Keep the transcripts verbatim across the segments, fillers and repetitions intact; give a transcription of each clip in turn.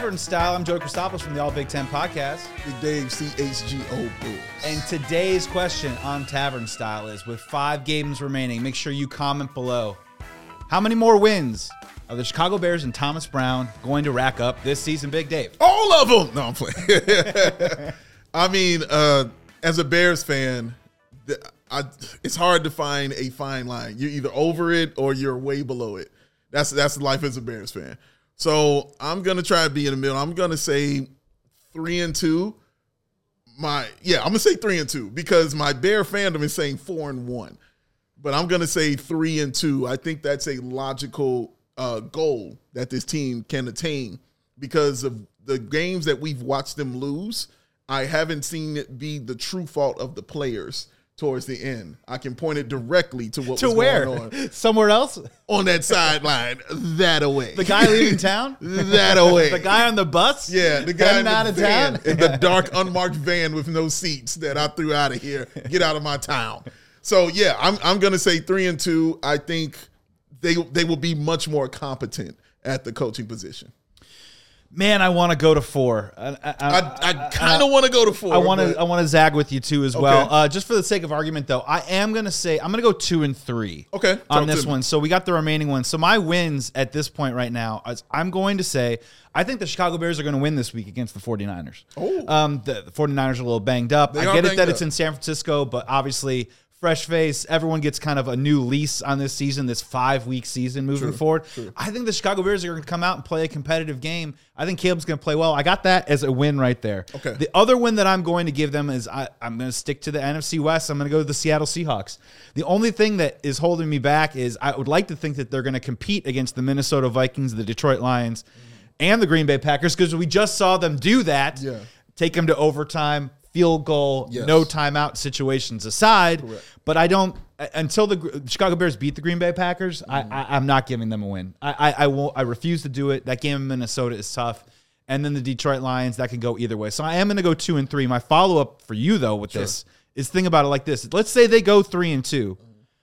Tavern Style. I'm Joe Christopoulos from the All Big Ten Podcast. Big Dave, C H G O Bulls. And today's question on Tavern Style is, with five games remaining, make sure you comment below. How many more wins are the Chicago Bears and Thomas Brown going to rack up this season, Big Dave? All of them! No, I'm playing. I mean, uh, as a Bears fan, the, I, it's hard to find a fine line. You're either over it or you're way below it. That's that's life as a Bears fan. So I'm gonna try to be in the middle. I'm gonna say three and two. My yeah, I'm gonna say three and two because my Bear fandom is saying four and one, but I'm gonna say three and two. I think that's a logical uh, goal that this team can attain because of the games that we've watched them lose. I haven't seen it be the true fault of the players towards the end. I can point it directly to what to was where? going on. Somewhere else? On that sideline, that away. The guy leaving town? That away. The guy on the bus? Yeah, the guy in the out of van, town? in the dark, unmarked van with no seats that I threw out of here. Get out of my town. So, yeah, I'm I'm going to say three and two. I think they they will be much more competent at the coaching position. Man, I want to go to four. I, I, I, I kind of want to go to four. I want to. I want to zag with you too as Okay. well. Uh, just for the sake of argument, though, I am going to say I'm going to go two and three. Okay, on talk this to me. one. So we got the remaining ones. So my wins at this point right now, is I'm going to say I think the Chicago Bears are going to win this week against the 49ers. Oh. Um, the, the 49ers are a little banged up. They I are get it banged that up. it's in San Francisco, but obviously. Fresh face. Everyone gets kind of a new lease on this season, this five-week season moving True, forward. true. I think the Chicago Bears are going to come out and play a competitive game. I think Caleb's going to play well. I got that as a win right there. Okay. The other win that I'm going to give them is I, I'm going to stick to the N F C West. I'm going to go to the Seattle Seahawks. The only thing that is holding me back is I would like to think that they're going to compete against the Minnesota Vikings, the Detroit Lions, and the Green Bay Packers because we just saw them do that. Yeah. Take them to overtime. Field goal, Yes. no timeout situations aside. Correct. But I don't until the Chicago Bears beat the Green Bay Packers. Mm. I, I, I'm not giving them a win. I, I I won't. I refuse to do it. That game in Minnesota is tough, and then the Detroit Lions that can go either way. So I am going to go two and three. My follow up for you though with Sure. this is think about it like this. Let's say they go three and two.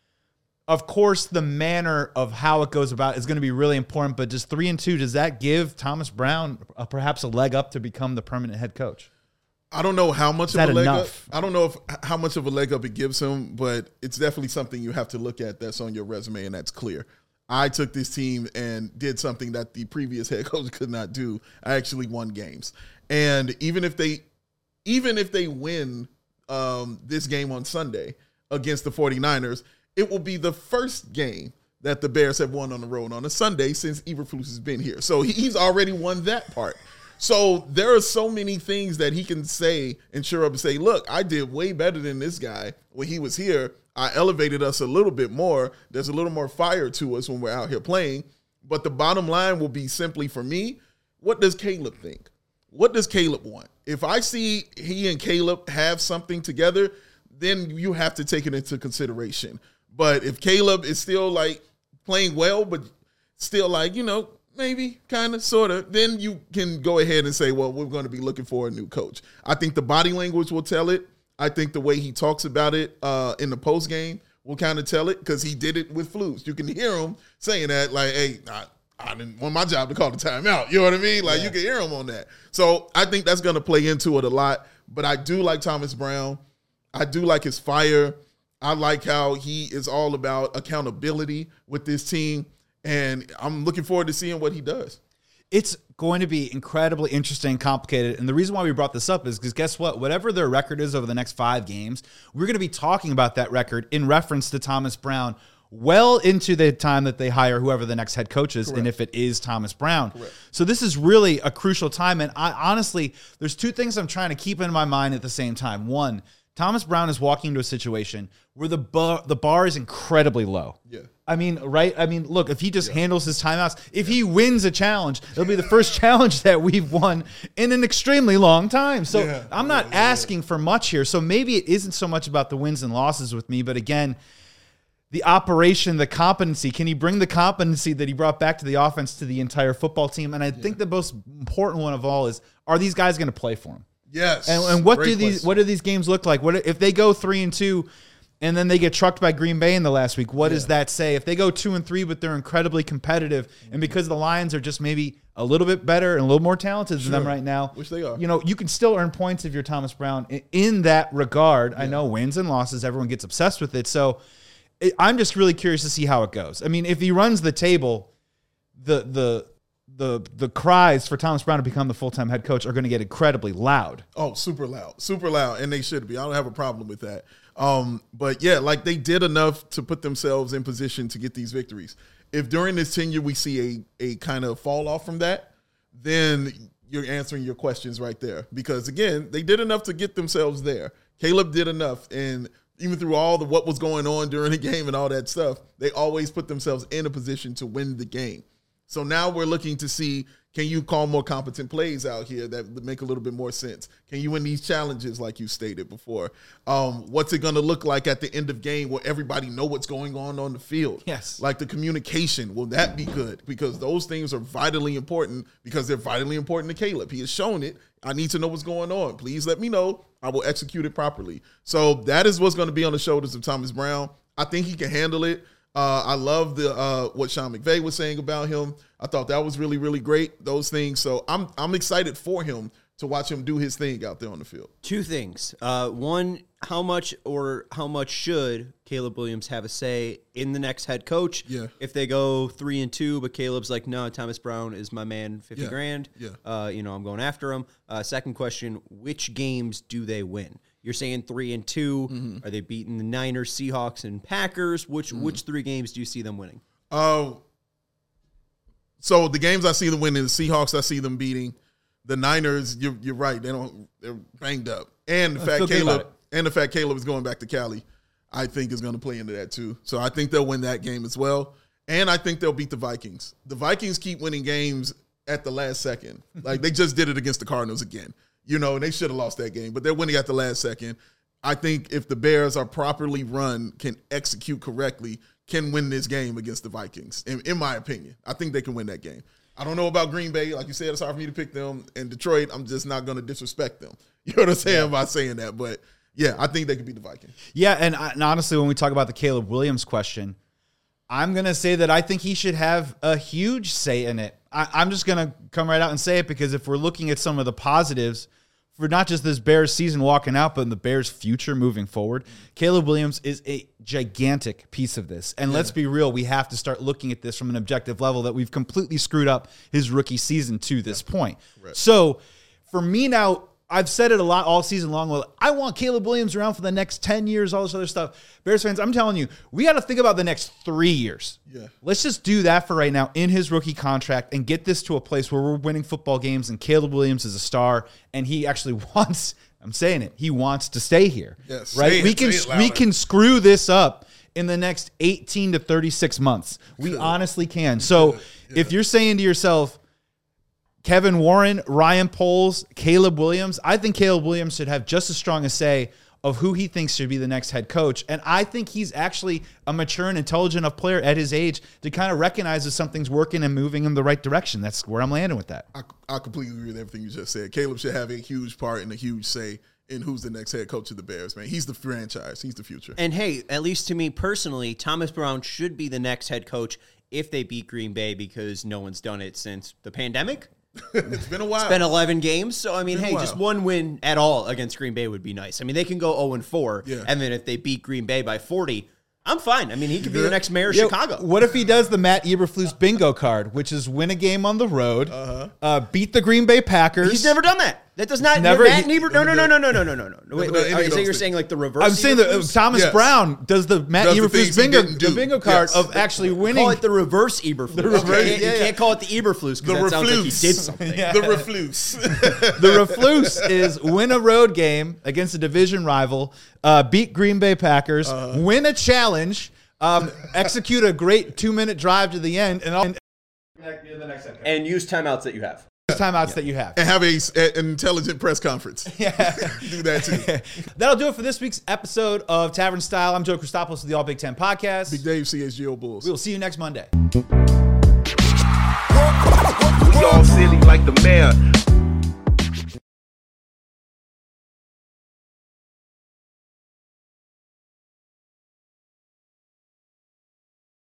Of course, the manner of how it goes about is going to be really important. But just three and two, does that give Thomas Brown a, perhaps a leg up to become the permanent head coach? I don't know how much Is of that a leg enough? up. I don't know if how much of a leg up it gives him, but it's definitely something you have to look at that's on your resume, and that's clear. I took this team and did something that the previous head coach could not do. I actually won games, and even if they, even if they win um, this game on Sunday against the 49ers, it will be the first game that the Bears have won on the road on a Sunday since Eberflus has been here. So he's already won that part. So there are so many things that he can say and sure up and say, look, I did way better than this guy when he was here. I elevated us a little bit more. There's a little more fire to us when we're out here playing. But the bottom line will be simply for me, what does Caleb think? What does Caleb want? If I see he and Caleb have something together, then you have to take it into consideration. But if Caleb is still like playing well, but still like, you know, maybe, kind of, sort of, then you can go ahead and say, well, we're going to be looking for a new coach. I think the body language will tell it. I think the way he talks about it uh, in the postgame will kind of tell it because he did it with Flus. You can hear him saying that, like, hey, I, I didn't want my job to call the timeout. You know what I mean? Like, Yeah. you can hear him on that. So I think that's going to play into it a lot. But I do like Thomas Brown. I do like his fire. I like how he is all about accountability with this team. And I'm looking forward to seeing what he does. It's going to be incredibly interesting and complicated. And the reason why we brought this up is because guess what? Whatever their record is over the next five games, we're going to be talking about that record in reference to Thomas Brown well into the time that they hire whoever the next head coach is, Correct. and if it is Thomas Brown. Correct. So this is really a crucial time. And I honestly, there's two things I'm trying to keep in my mind at the same time. One, Thomas Brown is walking into a situation where the bar, the bar is incredibly low. Yeah. I mean, right? I mean, look, if he just yeah. handles his timeouts, if he wins a challenge, it'll be the first challenge that we've won in an extremely long time. So yeah. I'm not yeah, yeah, asking yeah. for much here. So maybe it isn't so much about the wins and losses with me, but again, the operation, the competency, can he bring the competency that he brought back to the offense to the entire football team? And I yeah. think the most important one of all is, are these guys going to play for him? Yes. And, and what Great do these question. what do these games look like? What if they go three and two? and then they get trucked by Green Bay in the last week. What Yeah. does that say? If they go two and three, but they're incredibly competitive, and because the Lions are just maybe a little bit better and a little more talented Sure. than them right now, Which they are. You know, you can still earn points if you're Thomas Brown in, in that regard. Yeah. I know wins and losses, everyone gets obsessed with it. So it, I'm just really curious to see how it goes. I mean, if he runs the table, the the the the cries for Thomas Brown to become the full-time head coach are going to get incredibly loud. Oh, super loud, super loud, and they should be. I don't have a problem with that. Um, but yeah, like they did enough to put themselves in position to get these victories. If during this tenure we see a a kind of fall off from that, then you're answering your questions right there. Because again, they did enough to get themselves there. Caleb did enough, and even through all the what was going on during the game and all that stuff, they always put themselves in a position to win the game. So now we're looking to see, can you call more competent plays out here that make a little bit more sense? Can you win these challenges like you stated before? Um, what's it going to look like at the end of game where everybody know what's going on on the field? Yes. Like the communication, will that be good? Because those things are vitally important because they're vitally important to Caleb. He has shown it. I need to know what's going on. Please let me know. I will execute it properly. So that is what's going to be on the shoulders of Thomas Brown. I think he can handle it. Uh, I love the uh, what Sean McVay was saying about him. I thought that was really, really great, those things. So I'm I'm excited for him to watch him do his thing out there on the field. Two things. Uh, one, how much or how much should Caleb Williams have a say in the next head coach? Yeah. If they go three and two, but Caleb's like, no, Thomas Brown is my man, fifty Yeah. grand. Yeah. Uh, you know, I'm going after him. Uh, second question, which games do they win? You're saying three and two. Mm-hmm. Are they beating the Niners, Seahawks, and Packers? Which mm-hmm. which three games do you see them winning? Uh, so the games I see them winning, the Seahawks I see them beating. The Niners, you're, you're right. They don't. They're banged up, and the I fact feel good Caleb about and the fact Caleb is going back to Cali, I think is going to play into that too. So I think they'll win that game as well, and I think they'll beat the Vikings. The Vikings keep winning games at the last second. Like they just did it against the Cardinals again. You know, and they should have lost that game, but they're winning at the last second. I think if the Bears are properly run, can execute correctly, can win this game against the Vikings, in, in my opinion. I think they can win that game. I don't know about Green Bay. Like you said, it's hard for me to pick them. And Detroit, I'm just not going to disrespect them. You know what I'm saying yeah. by saying that. But, yeah, I think they could beat the Vikings. Yeah, and, and honestly, when we talk about the Caleb Williams question, I'm going to say that I think he should have a huge say in it. I, I'm just going to come right out and say it because if we're looking at some of the positives for not just this Bears season walking out, but in the Bears' future moving forward, Caleb Williams is a gigantic piece of this. And yeah. let's be real, we have to start looking at this from an objective level that we've completely screwed up his rookie season to this yeah. point. Right. So for me now, I've said it a lot all season long. Well, I want Caleb Williams around for the next ten years, all this other stuff. Bears fans, I'm telling you, we got to think about the next three years. Yeah. Let's just do that for right now in his rookie contract and get this to a place where we're winning football games and Caleb Williams is a star and he actually wants, I'm saying it, he wants to stay here. Yes. Right? Say we it, can say it we can screw this up in the next eighteen to thirty-six months. We Good. honestly can. So yeah. if you're saying to yourself, Kevin Warren, Ryan Poles, Caleb Williams, I think Caleb Williams should have just as strong a say of who he thinks should be the next head coach. And I think he's actually a mature and intelligent enough player at his age to kind of recognize if something's working and moving in the right direction. That's where I'm landing with that. I, I completely agree with everything you just said. Caleb should have a huge part and a huge say in who's the next head coach of the Bears, man. He's the franchise. He's the future. And, hey, at least to me personally, Thomas Brown should be the next head coach if they beat Green Bay because no one's done it since the pandemic. It's been a while. It's been eleven games. So, I mean, hey, while. just one win at all against Green Bay would be nice. I mean, they can go oh and four, yeah. and then if they beat Green Bay by forty, I'm fine. I mean, he could be the next mayor of Yo, Chicago. What if he does the Matt Eberflus bingo card, which is win a game on the road, uh-huh. uh, beat the Green Bay Packers? He's never done that. That does not. Never. Matt He, Eber, no, no, no, no, no, no, no, no, no. Wait, wait. Are you saying you're saying like the reverse? I'm saying that uh, Thomas yes. Brown does the Matt does Eberflus the bingo, do. the bingo card yes. of actually winning. Call it the reverse Eberflus. The reverse, okay. you, yeah, you yeah. can't call it the Eberflus because that reflus. sounds like he did something. Yeah. The reflus. The reflus is win a road game against a division rival, uh, beat Green Bay Packers, uh, win a challenge, um, execute a great two-minute drive to the end, and, and, and use timeouts that you have. Timeouts yeah. that you have. And have a, a, an intelligent press conference. Yeah. Do that too. That'll do it for this week's episode of Tavern Style. I'm Joe Christopoulos of the All Big Ten Podcast. Big Dave, C H G O Bulls. We will see you next Monday. We all silly like the mayor.